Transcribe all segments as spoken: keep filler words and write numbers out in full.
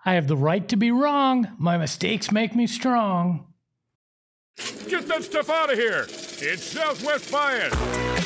I have the right to be wrong. My mistakes make me strong. Get that stuff out of here. It's Southwest Bias.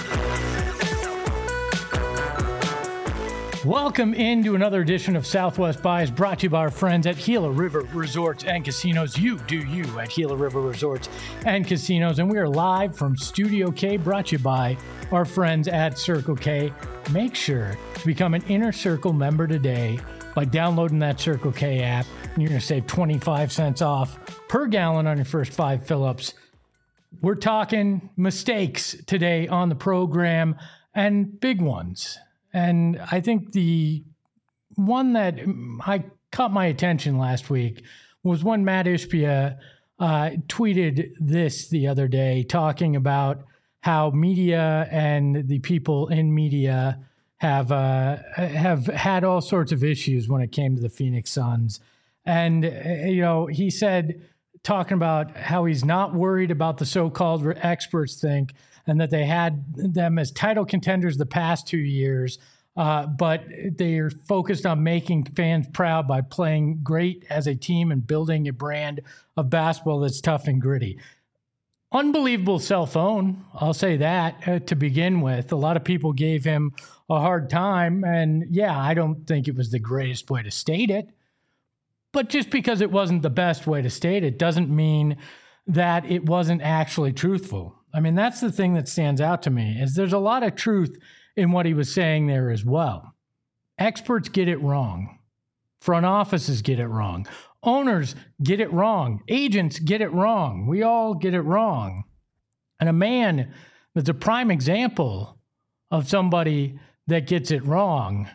Welcome into another edition of Southwest Bias, brought to you by our friends at Gila River Resorts and Casinos. You do you at Gila River Resorts and Casinos. And we are live from Studio K, brought to you by our friends at Circle K. Make sure to become an Inner Circle member today by downloading that Circle K app. And you're going to save twenty-five cents off per gallon on your first five fill-ups. We're talking mistakes today on the program, and big ones. And I think the one that I caught my attention last week was when Matt Ishbia uh, tweeted this the other day, talking about how media and the people in media have uh, have had all sorts of issues when it came to the Phoenix Suns. And, you know, he said, talking about how he's not worried about the so-called experts think, and that they had them as title contenders the past two years, uh, but they're focused on making fans proud by playing great as a team and building a brand of basketball that's tough and gritty. Unbelievable cell phone, I'll say that, uh, to begin with. A lot of people gave him a hard time, and yeah, I don't think it was the greatest way to state it. But just because it wasn't the best way to state it doesn't mean that it wasn't actually truthful. I mean, that's the thing that stands out to me, is there's a lot of truth in what he was saying there as well. Experts get it wrong. Front offices get it wrong. Owners get it wrong. Agents get it wrong. We all get it wrong. And a man that's a prime example of somebody that gets it wrong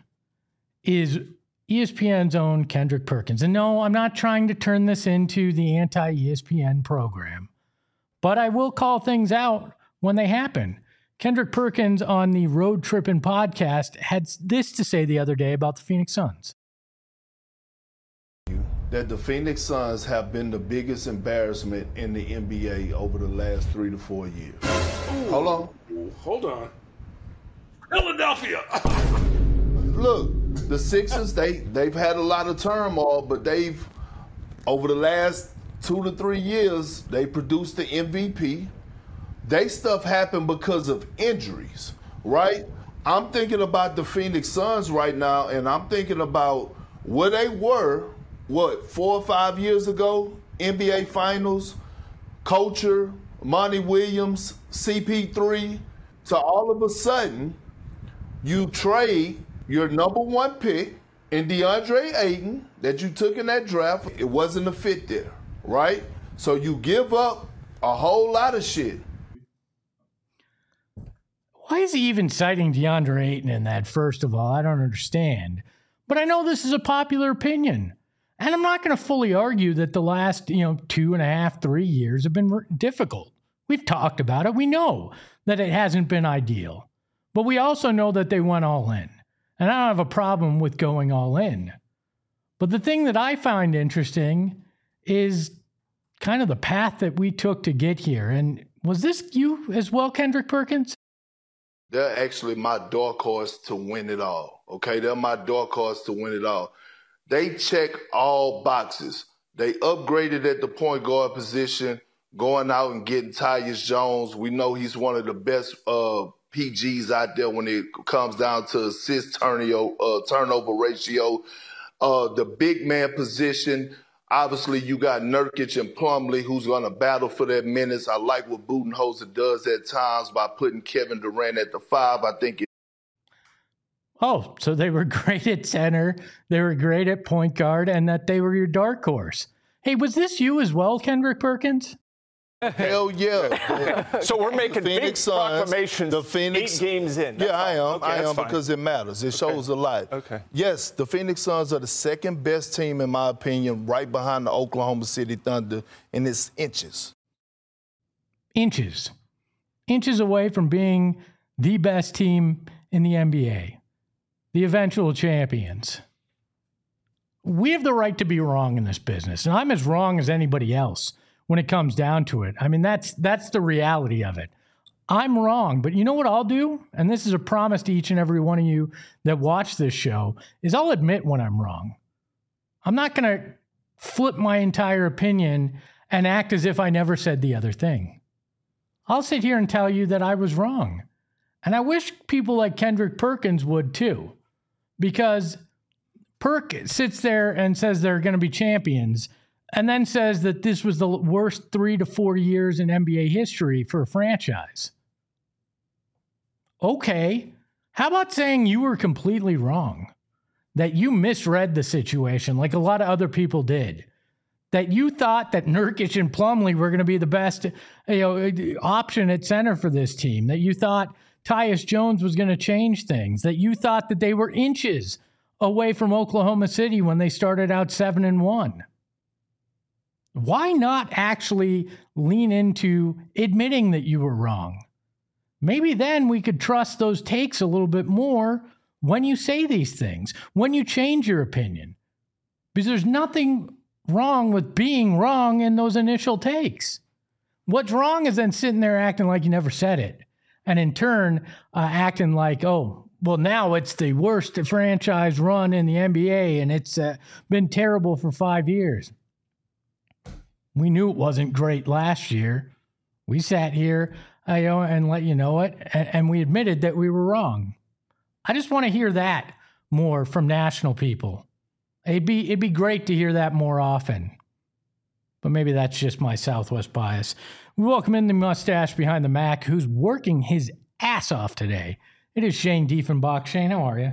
is E S P N's own Kendrick Perkins. And no, I'm not trying to turn this into the anti-E S P N program, but I will call things out when they happen. Kendrick Perkins on the Road Trippin' podcast had this to say the other day about the Phoenix Suns. That the Phoenix Suns have been the biggest embarrassment in the N B A over the last three to four years. Ooh. Hold on. Hold on. Philadelphia. Look, the Sixers, they, they've had a lot of turmoil, but they've, over the last two to three years, they produced the M V P. They stuff happened because of injuries, right? I'm thinking about the Phoenix Suns right now, and I'm thinking about where they were, what, four or five years ago, N B A Finals, Culture, Monty Williams, C P three. So all of a sudden, you trade your number one pick in DeAndre Ayton that you took in that draft. It wasn't a fit there, right? So you give up a whole lot of shit. Why is he even citing DeAndre Ayton in that, first of all? I don't understand. But I know this is a popular opinion. And I'm not going to fully argue that the last, you know, two and a half, three years have been difficult. We've talked about it. We know that it hasn't been ideal. But we also know that they went all in. And I don't have a problem with going all in. But the thing that I find interesting is kind of the path that we took to get here. And was this you as well, Kendrick Perkins? They're actually my dark horse to win it all, okay? They're my dark horse to win it all. They check all boxes. They upgraded at the point guard position, going out and getting Tyus Jones. We know he's one of the best uh, P Gs out there when it comes down to assist turnover, uh, turnover ratio. Uh, the big man position, obviously you got Nurkic and Plumlee who's going to battle for their minutes. I like what Budenholzer does at times by putting Kevin Durant at the five. I think it Oh, so they were great at center, they were great at point guard, and that they were your dark horse. Hey, was this you as well, Kendrick Perkins? Hell yeah. So we're making big Suns, proclamations the Phoenix, eight games in. That's yeah, I am. okay, I am fine. because it matters. It okay. shows a lot. Okay. Yes, the Phoenix Suns are the second best team, in my opinion, right behind the Oklahoma City Thunder, and it's inches. Inches. Inches away from being the best team in the N B A. The eventual champions. We have the right to be wrong in this business, and I'm as wrong as anybody else when it comes down to it. I mean, that's that's the reality of it. I'm wrong, but you know what I'll do? And this is a promise to each and every one of you that watch this show, is I'll admit when I'm wrong. I'm not going to flip my entire opinion and act as if I never said the other thing. I'll sit here and tell you that I was wrong. And I wish people like Kendrick Perkins would too, because Perk sits there and says they're going to be champions and then says that this was the worst three to four years in N B A history for a franchise. Okay. How about saying you were completely wrong? That you misread the situation like a lot of other people did. That you thought that Nurkic and Plumlee were going to be the best, you know, option at center for this team. That you thought Tyus Jones was going to change things. That you thought that they were inches away from Oklahoma City when they started out seven and one. Why not actually lean into admitting that you were wrong? Maybe then we could trust those takes a little bit more when you say these things, when you change your opinion. Because there's nothing wrong with being wrong in those initial takes. What's wrong is then sitting there acting like you never said it. And in turn, uh, acting like, oh, well, now it's the worst franchise run in the N B A and it's uh, been terrible for five years. We knew it wasn't great last year. We sat here uh, you know, and let you know it, and, and we admitted that we were wrong. I just want to hear that more from national people. It'd be it'd be great to hear that more often. But maybe that's just my Southwest bias. We welcome in the mustache behind the Mac, who's working his ass off today. It is Shane Diefenbach. Shane, how are you?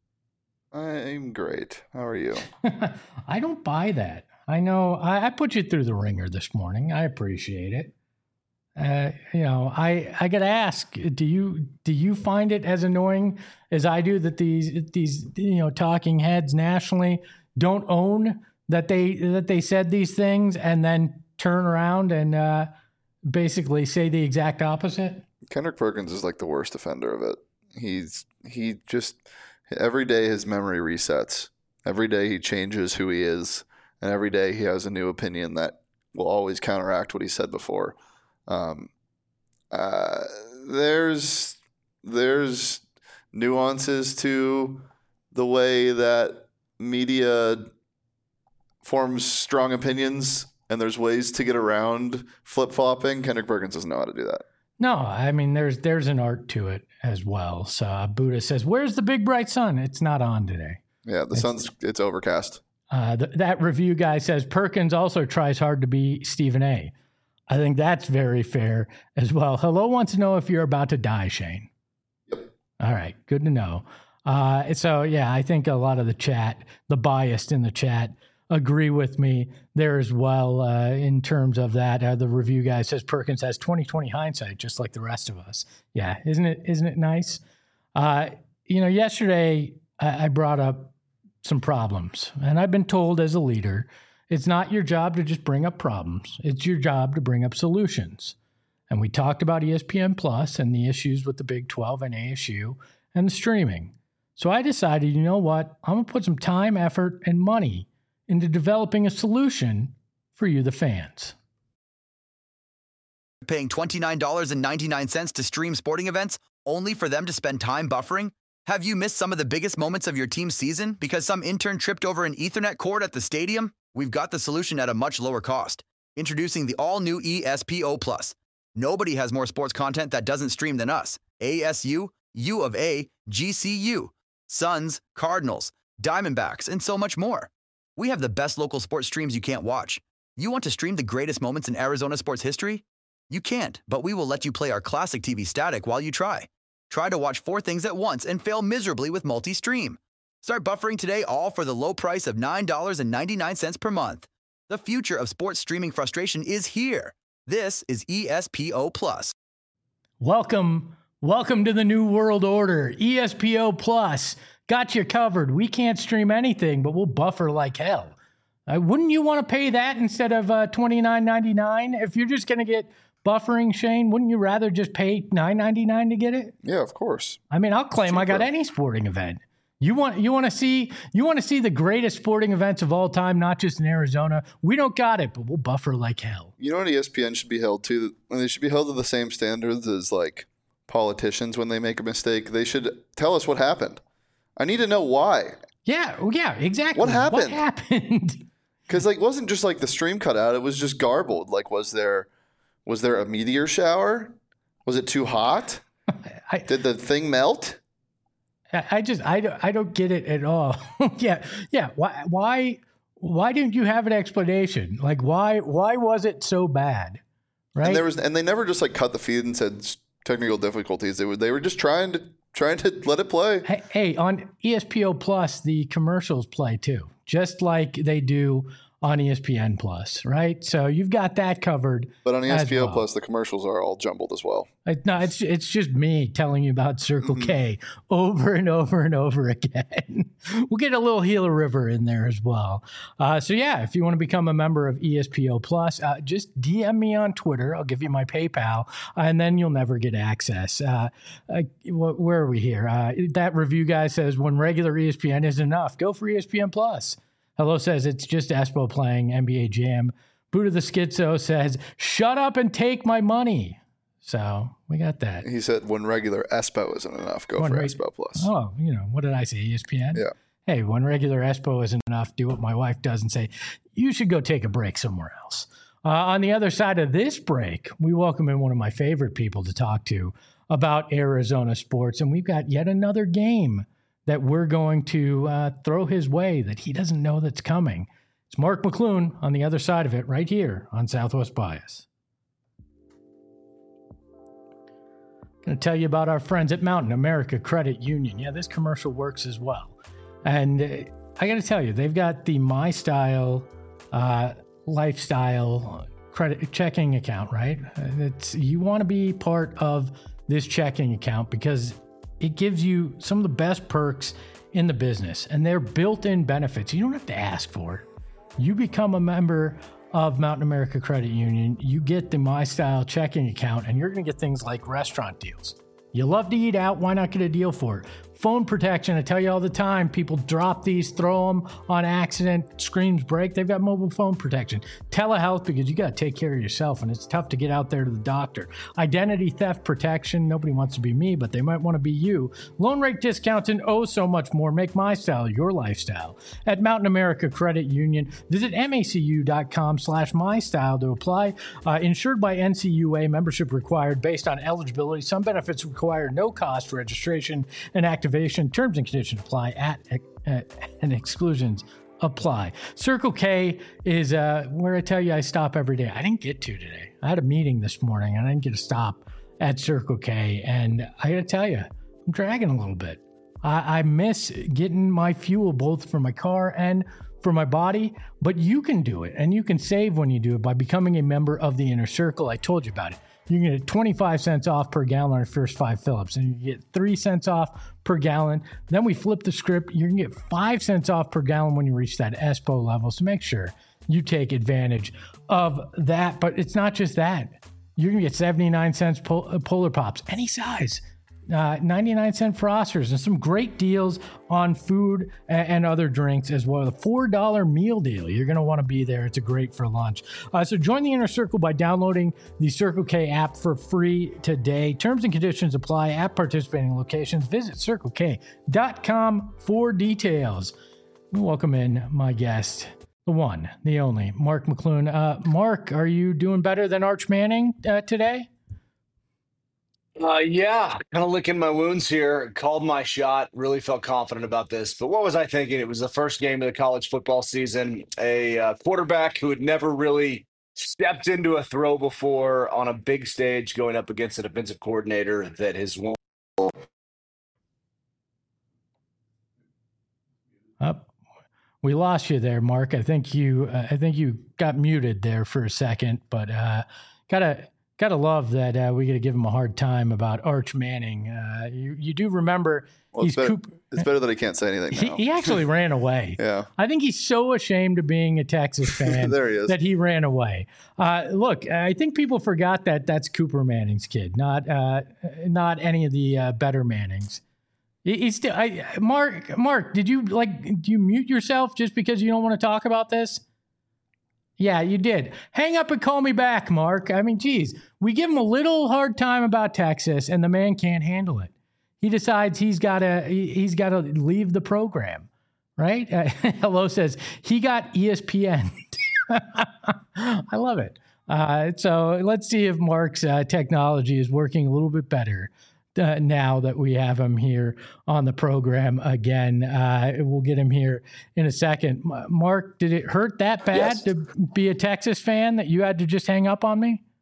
I'm great. How are you? I don't buy that. I know I, I put you through the ringer this morning. I appreciate it. Uh, you know, I I gotta ask, do you do you find it as annoying as I do that these these you know talking heads nationally don't own that they that they said these things and then turn around and uh, basically say the exact opposite? Kendrick Perkins is like the worst offender of it. He's he just every day his memory resets. Every day he changes who he is, and every day he has a new opinion that will always counteract what he said before. Um, uh, there's there's nuances to the way that media forms strong opinions, and there's ways to get around flip-flopping. Kendrick Perkins doesn't know how to do that. No, I mean, there's there's an art to it as well. So uh, Buddha says, where's the big bright sun? It's not on today. Yeah, the it's, sun's it's overcast. Uh, th- that review guy says Perkins also tries hard to be Stephen A. I think that's very fair as well. Hello wants to know if you're about to die, Shane. Yep. All right, good to know. Uh, so, yeah, I think a lot of the chat, the biased in the chat, agree with me there as well uh, in terms of that. Uh, the review guy says Perkins has twenty twenty hindsight, just like the rest of us. Yeah, isn't it? Isn't it nice? Uh, you know, yesterday I, I brought up some problems, and I've been told as a leader, it's not your job to just bring up problems. It's your job to bring up solutions. And we talked about E S P N Plus and the issues with the Big twelve and A S U and the streaming. So I decided, you know what? I'm going to put some time, effort, and money into developing a solution for you, the fans. Paying twenty-nine dollars and ninety-nine cents to stream sporting events only for them to spend time buffering? Have you missed some of the biggest moments of your team's season because some intern tripped over an Ethernet cord at the stadium? We've got the solution at a much lower cost. Introducing the all-new E S P O Plus. Nobody has more sports content that doesn't stream than us. A S U, U of A, G C U, Suns, Cardinals, Diamondbacks, and so much more. We have the best local sports streams you can't watch. You want to stream the greatest moments in Arizona sports history? You can't, but we will let you play our classic T V static while you try. Try to watch four things at once and fail miserably with multi-stream. Start buffering today, all for the low price of nine dollars and ninety-nine cents per month. The future of sports streaming frustration is here. This is E S P O Plus. Welcome, welcome to the new world order. E S P O Plus got you covered. We can't stream anything, but we'll buffer like hell. Uh, wouldn't you want to pay that instead of uh, twenty-nine ninety-nine? If you're just going to get buffering, Shane, wouldn't you rather just pay nine ninety-nine to get it? Yeah, of course. I mean, I'll claim I got any sporting event. You want you want to see you want to see the greatest sporting events of all time, not just in Arizona. We don't got it, but we'll buffer like hell. You know what E S P N should be held to? They should be held to the same standards as like politicians when they make a mistake. They should tell us what happened. I need to know why. Yeah, yeah, exactly. What happened? What happened? Because like, it wasn't just like the stream cut out; it was just garbled. Like, was there was there a meteor shower? Was it too hot? I, Did the thing melt? I just I don't I don't get it at all. yeah, yeah. Why why why didn't you have an explanation? Like why why was it so bad? Right. And there was and they never just like cut the feed and said technical difficulties. They were they were just trying to trying to let it play. Hey, hey, on E S P N Plus, the commercials play too, just like they do on E S P N Plus, right? So you've got that covered. But on E S P N well. Plus, the commercials are all jumbled as well. I, no, it's it's just me telling you about Circle Mm-hmm. K over and over and over again. We'll get a little Gila River in there as well. Uh, so yeah, if you want to become a member of E S P N Plus, uh, just D M me on Twitter. I'll give you my PayPal, uh, and then you'll never get access. Uh, uh, wh- where are we here? Uh, that review guy says when regular E S P N isn't enough, go for E S P N Plus. Hello says it's just Espo playing N B A Jam. Buddha the Schizo says, shut up and take my money. So we got that. He said when regular Espo isn't enough, go When for reg- Espo Plus. Oh, you know, what did I say? E S P N? Yeah. Hey, when regular Espo isn't enough, do what my wife does and say, you should go take a break somewhere else. Uh, on the other side of this break, we welcome in one of my favorite people to talk to about Arizona sports. And we've got yet another game that we're going to uh, throw his way that he doesn't know that's coming. It's Mark McClune on the other side of it right here on Southwest Bias. Going to tell you about our friends at Mountain America Credit Union. Yeah, this commercial works as well. And uh, I got to tell you, they've got the My Style uh, lifestyle credit checking account, right? It's, you want to be part of this checking account because it gives you some of the best perks in the business, and they're built-in benefits. You don't have to ask for it. You become a member of Mountain America Credit Union, you get the My Style checking account, and you're going to get things like restaurant deals. You love to eat out, why not get a deal for it? Phone protection, I tell you all the time, people drop these, throw them on accident, screens break. They've got mobile phone protection. Telehealth, because you got to take care of yourself, and it's tough to get out there to the doctor. Identity theft protection, nobody wants to be me, but they might want to be you. Loan rate discounts and oh so much more. Make My Style your lifestyle. At Mountain America Credit Union, visit macu.com slash mystyle to apply. Uh, insured by N C U A, membership required based on eligibility. Some benefits require no cost registration and activation. Terms and conditions apply at, at and exclusions apply. Circle K is uh, where I tell you I stop every day. I didn't get to today. I had a meeting this morning and I didn't get to stop at Circle K. And I got to tell you, I'm dragging a little bit. I, I miss getting my fuel both for my car and for my body, but you can do it and you can save when you do it by becoming a member of the Inner Circle. I told you about it. You can get twenty-five cents off per gallon on your first five fill-ups, and you get three cents off per gallon. Then we flip the script. You can get five cents off per gallon when you reach that Espo level. So make sure you take advantage of that. But it's not just that. You're going to get seventy-nine cents pol- Polar Pops, any size. Uh, ninety-nine cent Frosters, and some great deals on food and, and other drinks as well. The four dollar meal deal. You're going to want to be there. It's a great for lunch. Uh, so join the Inner Circle by downloading the Circle K app for free today. Terms and conditions apply at participating locations. Visit circle k dot com for details. We welcome in my guest, the one, the only, Mark McClune. Uh, Mark, are you doing better than Arch Manning uh, today? Uh, yeah, kind of licking my wounds here. Called my shot. Really felt confident about this. But what was I thinking? It was the first game of the college football season. A uh, quarterback who had never really stepped into a throw before on a big stage, going up against a defensive coordinator that has won. Up. We lost you there, Mark. I think you. Uh, I think you got muted there for a second, but uh, gotta gotta love that uh, we got to give him a hard time about Arch Manning. Uh, you you do remember Well, he's it's, better, Coop- it's better that he can't say anything he, now. he actually ran away. Yeah. I think he's so ashamed of being a Texas fan There he is. that he ran away. Uh, look, I think people forgot that that's Cooper Manning's kid, not uh, not any of the uh, better Mannings. He- He's still, I, Mark. Mark, did you like? Do you mute yourself just because you don't want to talk about this? Yeah, you did. Hang up and call me back, Mark. I mean, geez, we give him a little hard time about Texas, and the man can't handle it. He decides he's got to he, he's got to leave the program, right? Uh, Hello says he got E S P N. I love it. Uh, so let's see if Mark's uh, technology is working a little bit better uh, now that we have him here on the program again. Uh, we'll get him here in a second. Mark, did it hurt that bad Yes. to be a Texas fan that you had to just hang up on me?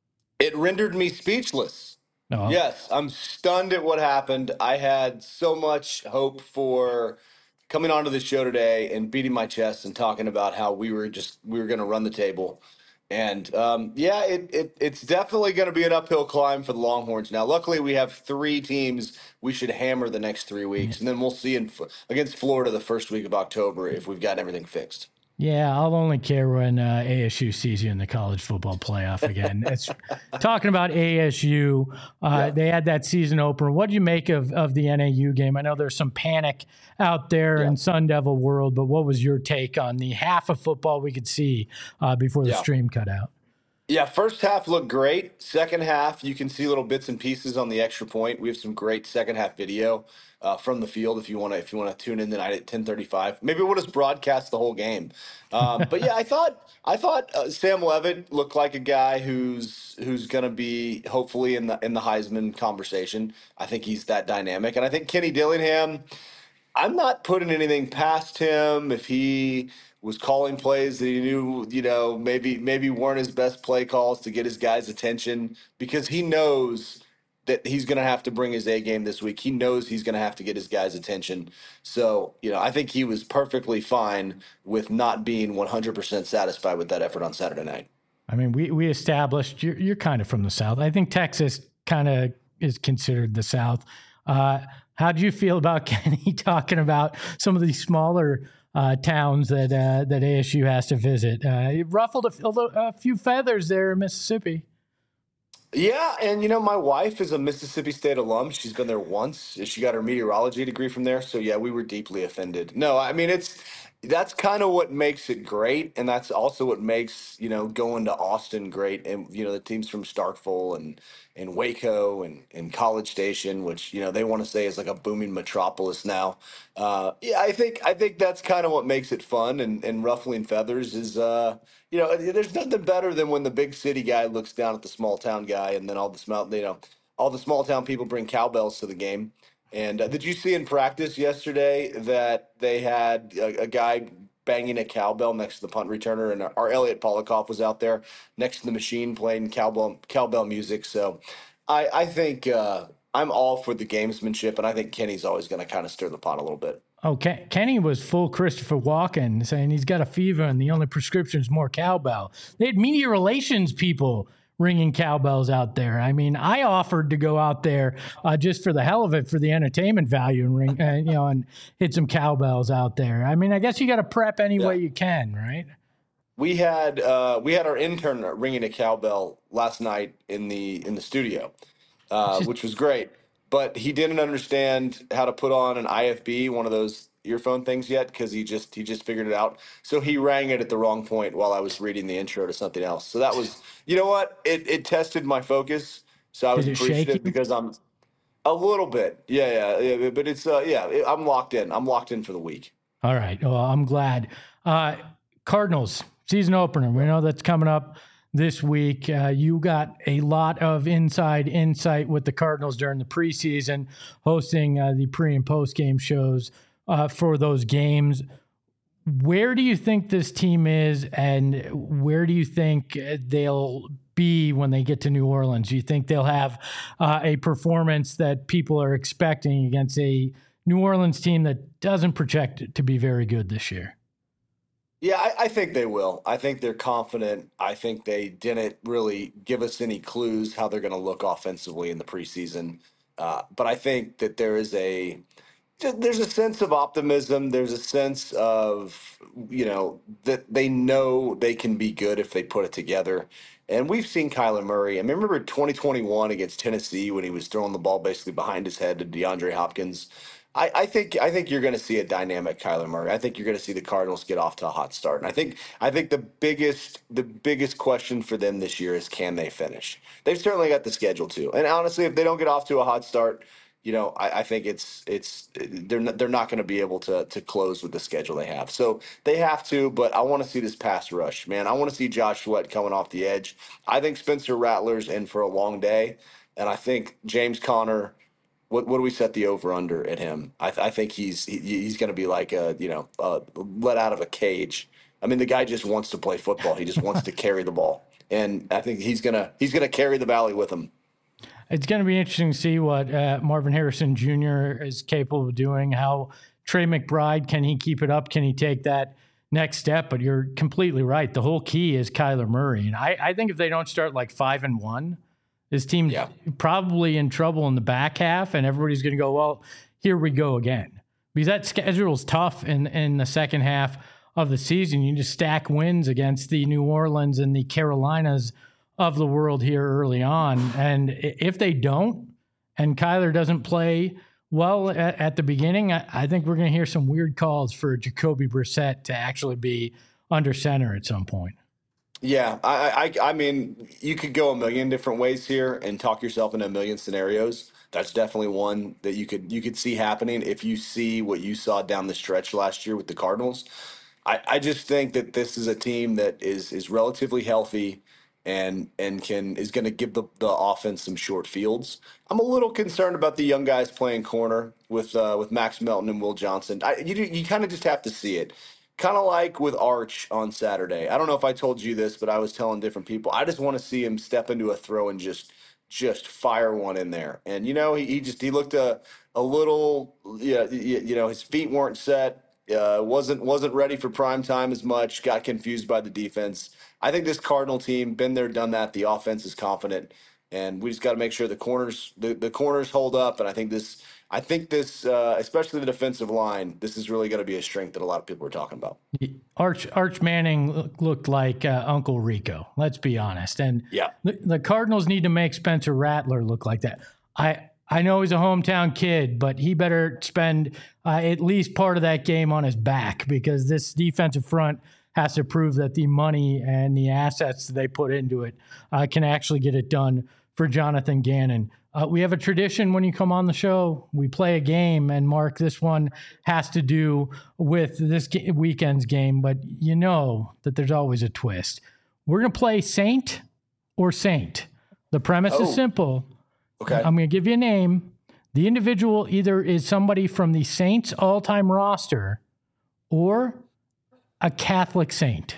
It rendered me speechless. No. Yes, I'm stunned at what happened. I had so much hope for coming onto the show today and beating my chest and talking about how we were just we were going to run the table. And um, yeah, it, it it's definitely going to be an uphill climb for the Longhorns. Now, luckily, we have three teams we should hammer the next three weeks, and then we'll see in, against Florida the first week of October if we've got everything fixed. Yeah, I'll only care when uh, A S U sees you in the college football playoff again. It's talking about A S U. Uh, yeah. They had that season opener. What do you make of, of the N A U game? I know there's some panic out there yeah. in Sun Devil world, but what was your take on the half of football we could see uh, before the yeah. stream cut out? Yeah, first half looked great. Second half, you can see little bits and pieces on the extra point. We have some great second half video uh, from the field if you want to if you want to tune in tonight at ten thirty-five. Maybe we'll just broadcast the whole game. Um, but yeah, I thought I thought uh, Sam Leavitt looked like a guy who's who's going to be hopefully in the in the Heisman conversation. I think he's that dynamic, and I think Kenny Dillingham. I'm not putting anything past him if he was calling plays that he knew, you know, maybe maybe weren't his best play calls to get his guys' attention, because he knows that he's going to have to bring his A game this week. He knows he's going to have to get his guys' attention. So, you know, I think he was perfectly fine with not being one hundred percent satisfied with that effort on Saturday night. I mean, we, we established you're, you're kind of from the South. I think Texas kind of is considered the South. Uh, how do you feel about Kenny talking about some of these smaller uh, towns that uh, that A S U has to visit? Uh, it ruffled a, a few feathers there in Mississippi. Yeah, and you know, my wife is a Mississippi State alum. She's been there once. She got her meteorology degree from there. So yeah, we were deeply offended. No, I mean, it's that's kind of what makes it great, and that's also what makes, you know, going to Austin great. And you know, the teams from Starkville and and Waco and, and College Station, which, you know, they want to say is like a booming metropolis now. Uh, yeah, I think I think that's kind of what makes it fun. And, and ruffling feathers is, uh, you know, there's nothing better than when the big city guy looks down at the small town guy, and then all the small, you know, all the small town people bring cowbells to the game. And uh, did you see in practice yesterday that they had a, a guy banging a cowbell next to the punt returner, and our, our Elliot Polikoff was out there next to the machine playing cowbell cowbell music. So I, I think uh, I'm all for the gamesmanship, and I think Kenny's always going to kind of stir the pot a little bit. Okay, Kenny was full Christopher Walken, saying he's got a fever and the only prescription is more cowbell. They had media relations people ringing cowbells out there. I mean, I offered to go out there uh, just for the hell of it, for the entertainment value, and ring, uh, you know, and hit some cowbells out there. I mean, I guess you got to prep any yeah. way you can, right? We had uh, we had our intern ringing a cowbell last night in the in the studio, uh, which was great. But he didn't understand how to put on an I F B, one of those earphone things, yet, because he just he just figured it out. So he rang it at the wrong point while I was reading the intro to something else. So that was, you know what? It it tested my focus. So I was appreciative because I'm a little bit, yeah, yeah, yeah. But it's uh, yeah, it, I'm locked in. I'm locked in for the week. All right. Well, I'm glad. Uh, Cardinals season opener. We know that's coming up this week. Uh, you got a lot of inside insight with the Cardinals during the preseason, hosting uh, the pre and post game shows uh, for those games. Where do you think this team is, and where do you think they'll be when they get to New Orleans? Do you think they'll have uh, a performance that people are expecting against a New Orleans team that doesn't project to be very good this year? Yeah, I, I think they will. I think they're confident. I think they didn't really give us any clues how they're going to look offensively in the preseason. Uh, but I think that there is a there's a sense of optimism. There's a sense of, you know, that they know they can be good if they put it together. And we've seen Kyler Murray. I mean, remember twenty twenty-one against Tennessee when he was throwing the ball basically behind his head to DeAndre Hopkins. I, I think I think you're going to see a dynamic Kyler Murray. I think you're going to see the Cardinals get off to a hot start. And I think I think the biggest the biggest question for them this year is, can they finish? They've certainly got the schedule too. And honestly, if they don't get off to a hot start, you know, I, I think it's it's they're not, they're not going to be able to to close with the schedule they have. So they have to, but I want to see this pass rush, man. I want to see Josh Sweat coming off the edge. I think Spencer Rattler's in for a long day, and I think James Conner. What what do we set the over under at him? I, th- I think he's he, he's going to be like a you know uh, let out of a cage. I mean, the guy just wants to play football. He just wants to carry the ball, and I think he's gonna he's gonna carry the Valley with him. It's going to be interesting to see what uh, Marvin Harrison Junior is capable of doing. How Trey McBride, can he keep it up? Can he take that next step? But you're completely right. The whole key is Kyler Murray. And I, I think if they don't start like five and one, this team's yeah. probably in trouble in the back half, and everybody's going to go, well, here we go again. Because that schedule's tough in, in the second half of the season. You just stack wins against the New Orleans and the Carolinas of the world here early on. And if they don't, and Kyler doesn't play well at, at the beginning, I, I think we're going to hear some weird calls for Jacoby Brissett to actually be under center at some point. Yeah, I, I, I mean, you could go a million different ways here and talk yourself into a million scenarios. That's definitely one that you could you could see happening if you see what you saw down the stretch last year with the Cardinals. I, I just think that this is a team that is is relatively healthy and and can is going to give the, the offense some short fields. I'm a little concerned about the young guys playing corner with uh, with Max Melton and Will Johnson. I, you you kind of just have to see it. Kind of like with Arch on Saturday. I don't know if I told you this, but I was telling different people. I just want to see him step into a throw and just just fire one in there. And, you know, he, he just he looked a, a little, yeah, you, you know, his feet weren't set. Uh, wasn't wasn't ready for prime time as much, got confused by the defense. I think this Cardinal team, been there, done that. The offense is confident, and we just got to make sure the corners the, the corners hold up. And I think this, I think this, uh, especially the defensive line, this is really going to be a strength that a lot of people are talking about. Arch Arch Manning looked like uh, Uncle Rico. Let's be honest, and yeah, the, the Cardinals need to make Spencer Rattler look like that. I. I know he's a hometown kid, but he better spend uh, at least part of that game on his back, because this defensive front has to prove that the money and the assets that they put into it uh, can actually get it done for Jonathan Gannon. Uh, we have a tradition when you come on the show, we play a game, and Mark, this one has to do with this ga- weekend's game, but you know that there's always a twist. We're going to play Saint or Saint. The premise oh. is simple. Okay. I'm going to give you a name. The individual either is somebody from the Saints all-time roster or a Catholic saint.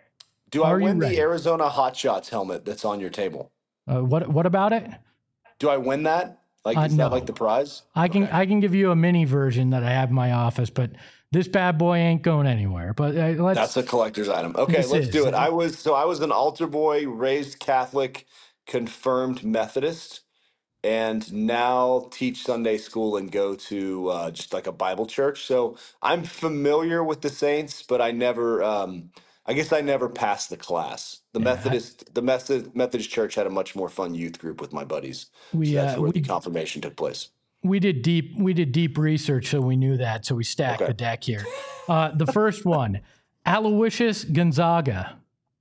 Do I Are win you ready? the Arizona Hot Shots helmet that's on your table? Uh, what What about it? Do I win that? Like, Uh, is no. that like the prize? I can Okay. I can give you a mini version that I have in my office, but this bad boy ain't going anywhere. But uh, let's. That's a collector's item. Okay, This let's is. do it. I was so I was an altar boy, raised Catholic, confirmed Methodist, and now teach Sunday school and go to uh, just like a Bible church. So I'm familiar with the Saints, but I never, um, I guess I never passed the class. The Yeah, Methodist, the Methodist, Methodist church had a much more fun youth group with my buddies. We, so that's uh, where we- the confirmation took place. We did deep we did deep research, so we knew that. So we stacked Okay. the deck here. Uh, the first one, Aloysius Gonzaga.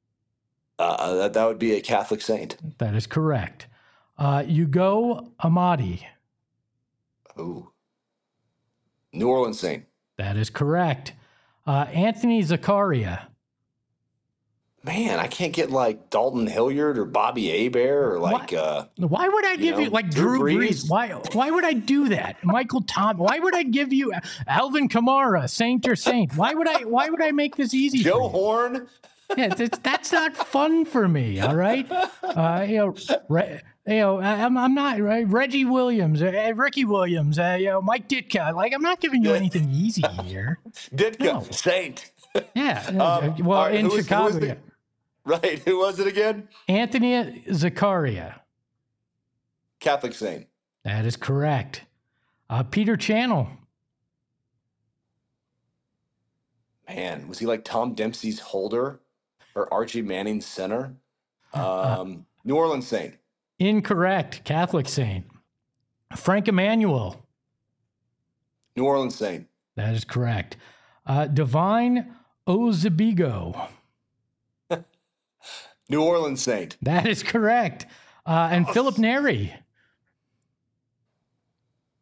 Uh, that, that would be a Catholic saint. That is correct. Uh, Ugo Amadi. Ooh. New Orleans saint. That is correct. Uh, Anthony Zakaria. Man, I can't get like Dalton Hilliard or Bobby Hebert or like uh Why would I give you, know, like Drew Drew Brees? Brees? Why? Why would I do that? Michael Tom. Why would I give you Alvin Kamara, Saint or Saint? Why would I? Why would I make this easy? Joe for you? Horn. Yeah, that's, that's not fun for me. All right, uh, you know, re, you know, I'm I'm not right. Reggie Williams, uh, Ricky Williams, uh, you know, Mike Ditka. Like, I'm not giving you anything easy here. Ditka, No. saint. Yeah. Um, well, all right, in who was- who was Chicago, the- yeah. Right. Who was it again? Anthony Zakaria. Catholic saint. That is correct. Uh, Peter Channel. Man, was he like Tom Dempsey's holder or Archie Manning's center? Um, New Orleans saint. Incorrect. Catholic saint. Frank Emmanuel. New Orleans saint. That is correct. Uh, Divine Ozebigo. New Orleans saint. That is correct. Uh, and Philip Neri.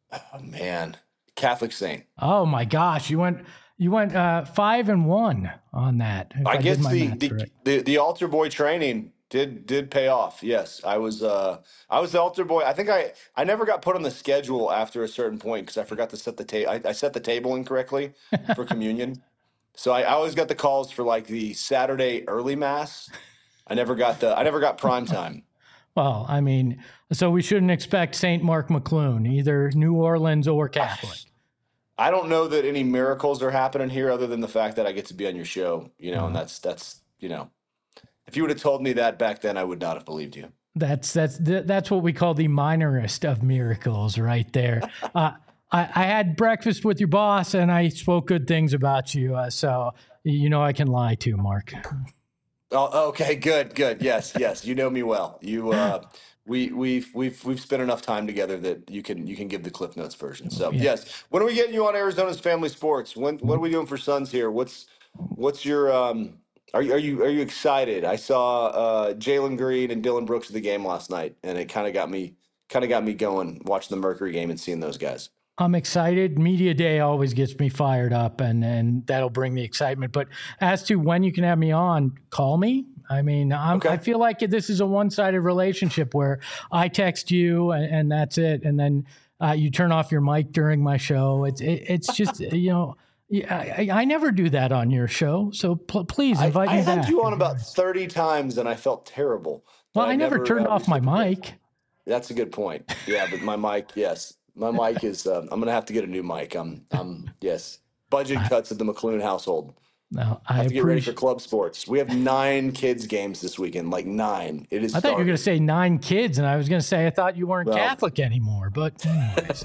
Oh, man. Catholic Saint. Oh my gosh, you went you went uh, five and one on that. I, I guess the the, the, the the altar boy training did did pay off. Yes, I was uh I was the altar boy. I think I I never got put on the schedule after a certain point because I forgot to set the table. I, I set the table incorrectly for communion, so I, I always got the calls for like the Saturday early mass. I never got the I never got prime time. Well, I mean, so we shouldn't expect Saint Mark McClune, either New Orleans or Catholic. I don't know that any miracles are happening here other than the fact that I get to be on your show, you know, mm-hmm. and that's, that's, you know, if you would have told me that back then, I would not have believed you. That's, that's, that's what we call the minorest of miracles right there. uh, I, I had breakfast with your boss and I spoke good things about you. Uh, so, you know, I can lie too, Mark. Oh, okay, good, good. Yes, yes. You know me well. You, uh, we, we've, we've, we've spent enough time together that you can, you can give the Cliff Notes version. So yeah. Yes. When are we getting you on Arizona's Family Sports? When, what are we doing for Suns here? What's, what's your, um, are you, are you, are you excited? I saw, uh, Jalen Green and Dylan Brooks at the game last night, and it kind of got me, kind of got me going watching the Mercury game and seeing those guys. I'm excited. Media day always gets me fired up, and, and that'll bring the excitement. But as to when you can have me on, call me. I mean, I'm, okay. I feel like this is a one-sided relationship where I text you and, and that's it. And then uh, you turn off your mic during my show. It's it, it's just, you know, I, I never do that on your show. So pl- please invite I, me I back. I had you on about thirty times and I felt terrible. Well, I, I never, never turned uh, off my mic. That's a good point. Yeah, but my mic, yes. My mic is, uh, I'm going to have to get a new mic. I'm, I'm yes. Budget cuts at the McClune household. No, I, I have to appreciate- get ready for club sports. We have nine kids games this weekend, like nine. It is. I thought starting. you were going to say nine kids, and I was going to say I thought you weren't well, Catholic anymore. But anyways.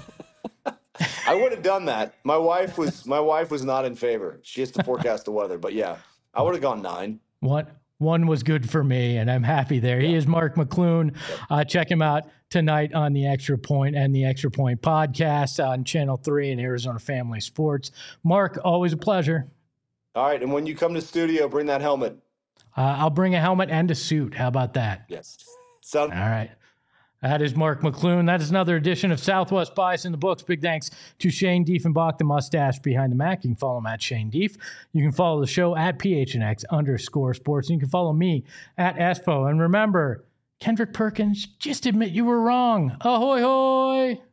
I would have done that. My wife was my wife was not in favor. She has to forecast the weather, but yeah, I would have gone nine. What? One was good for me, and I'm happy there. Yeah. He is Mark McClune. Uh, check him out tonight on the Extra Point and the Extra Point podcast on Channel three and Arizona Family Sports. Mark, always a pleasure. All right, and when you come to the studio, bring that helmet. Uh, I'll bring a helmet and a suit. How about that? Yes. Sound- All right. That is Mark McClune. That is another edition of Southwest Bias in the Books. Big thanks to Shane Diefenbach, the mustache behind the Mac. You can follow him at Shane Dief. You can follow the show at P H N X underscore sports. And you can follow me at Espo. And remember, Kendrick Perkins, just admit you were wrong. Ahoy, hoy.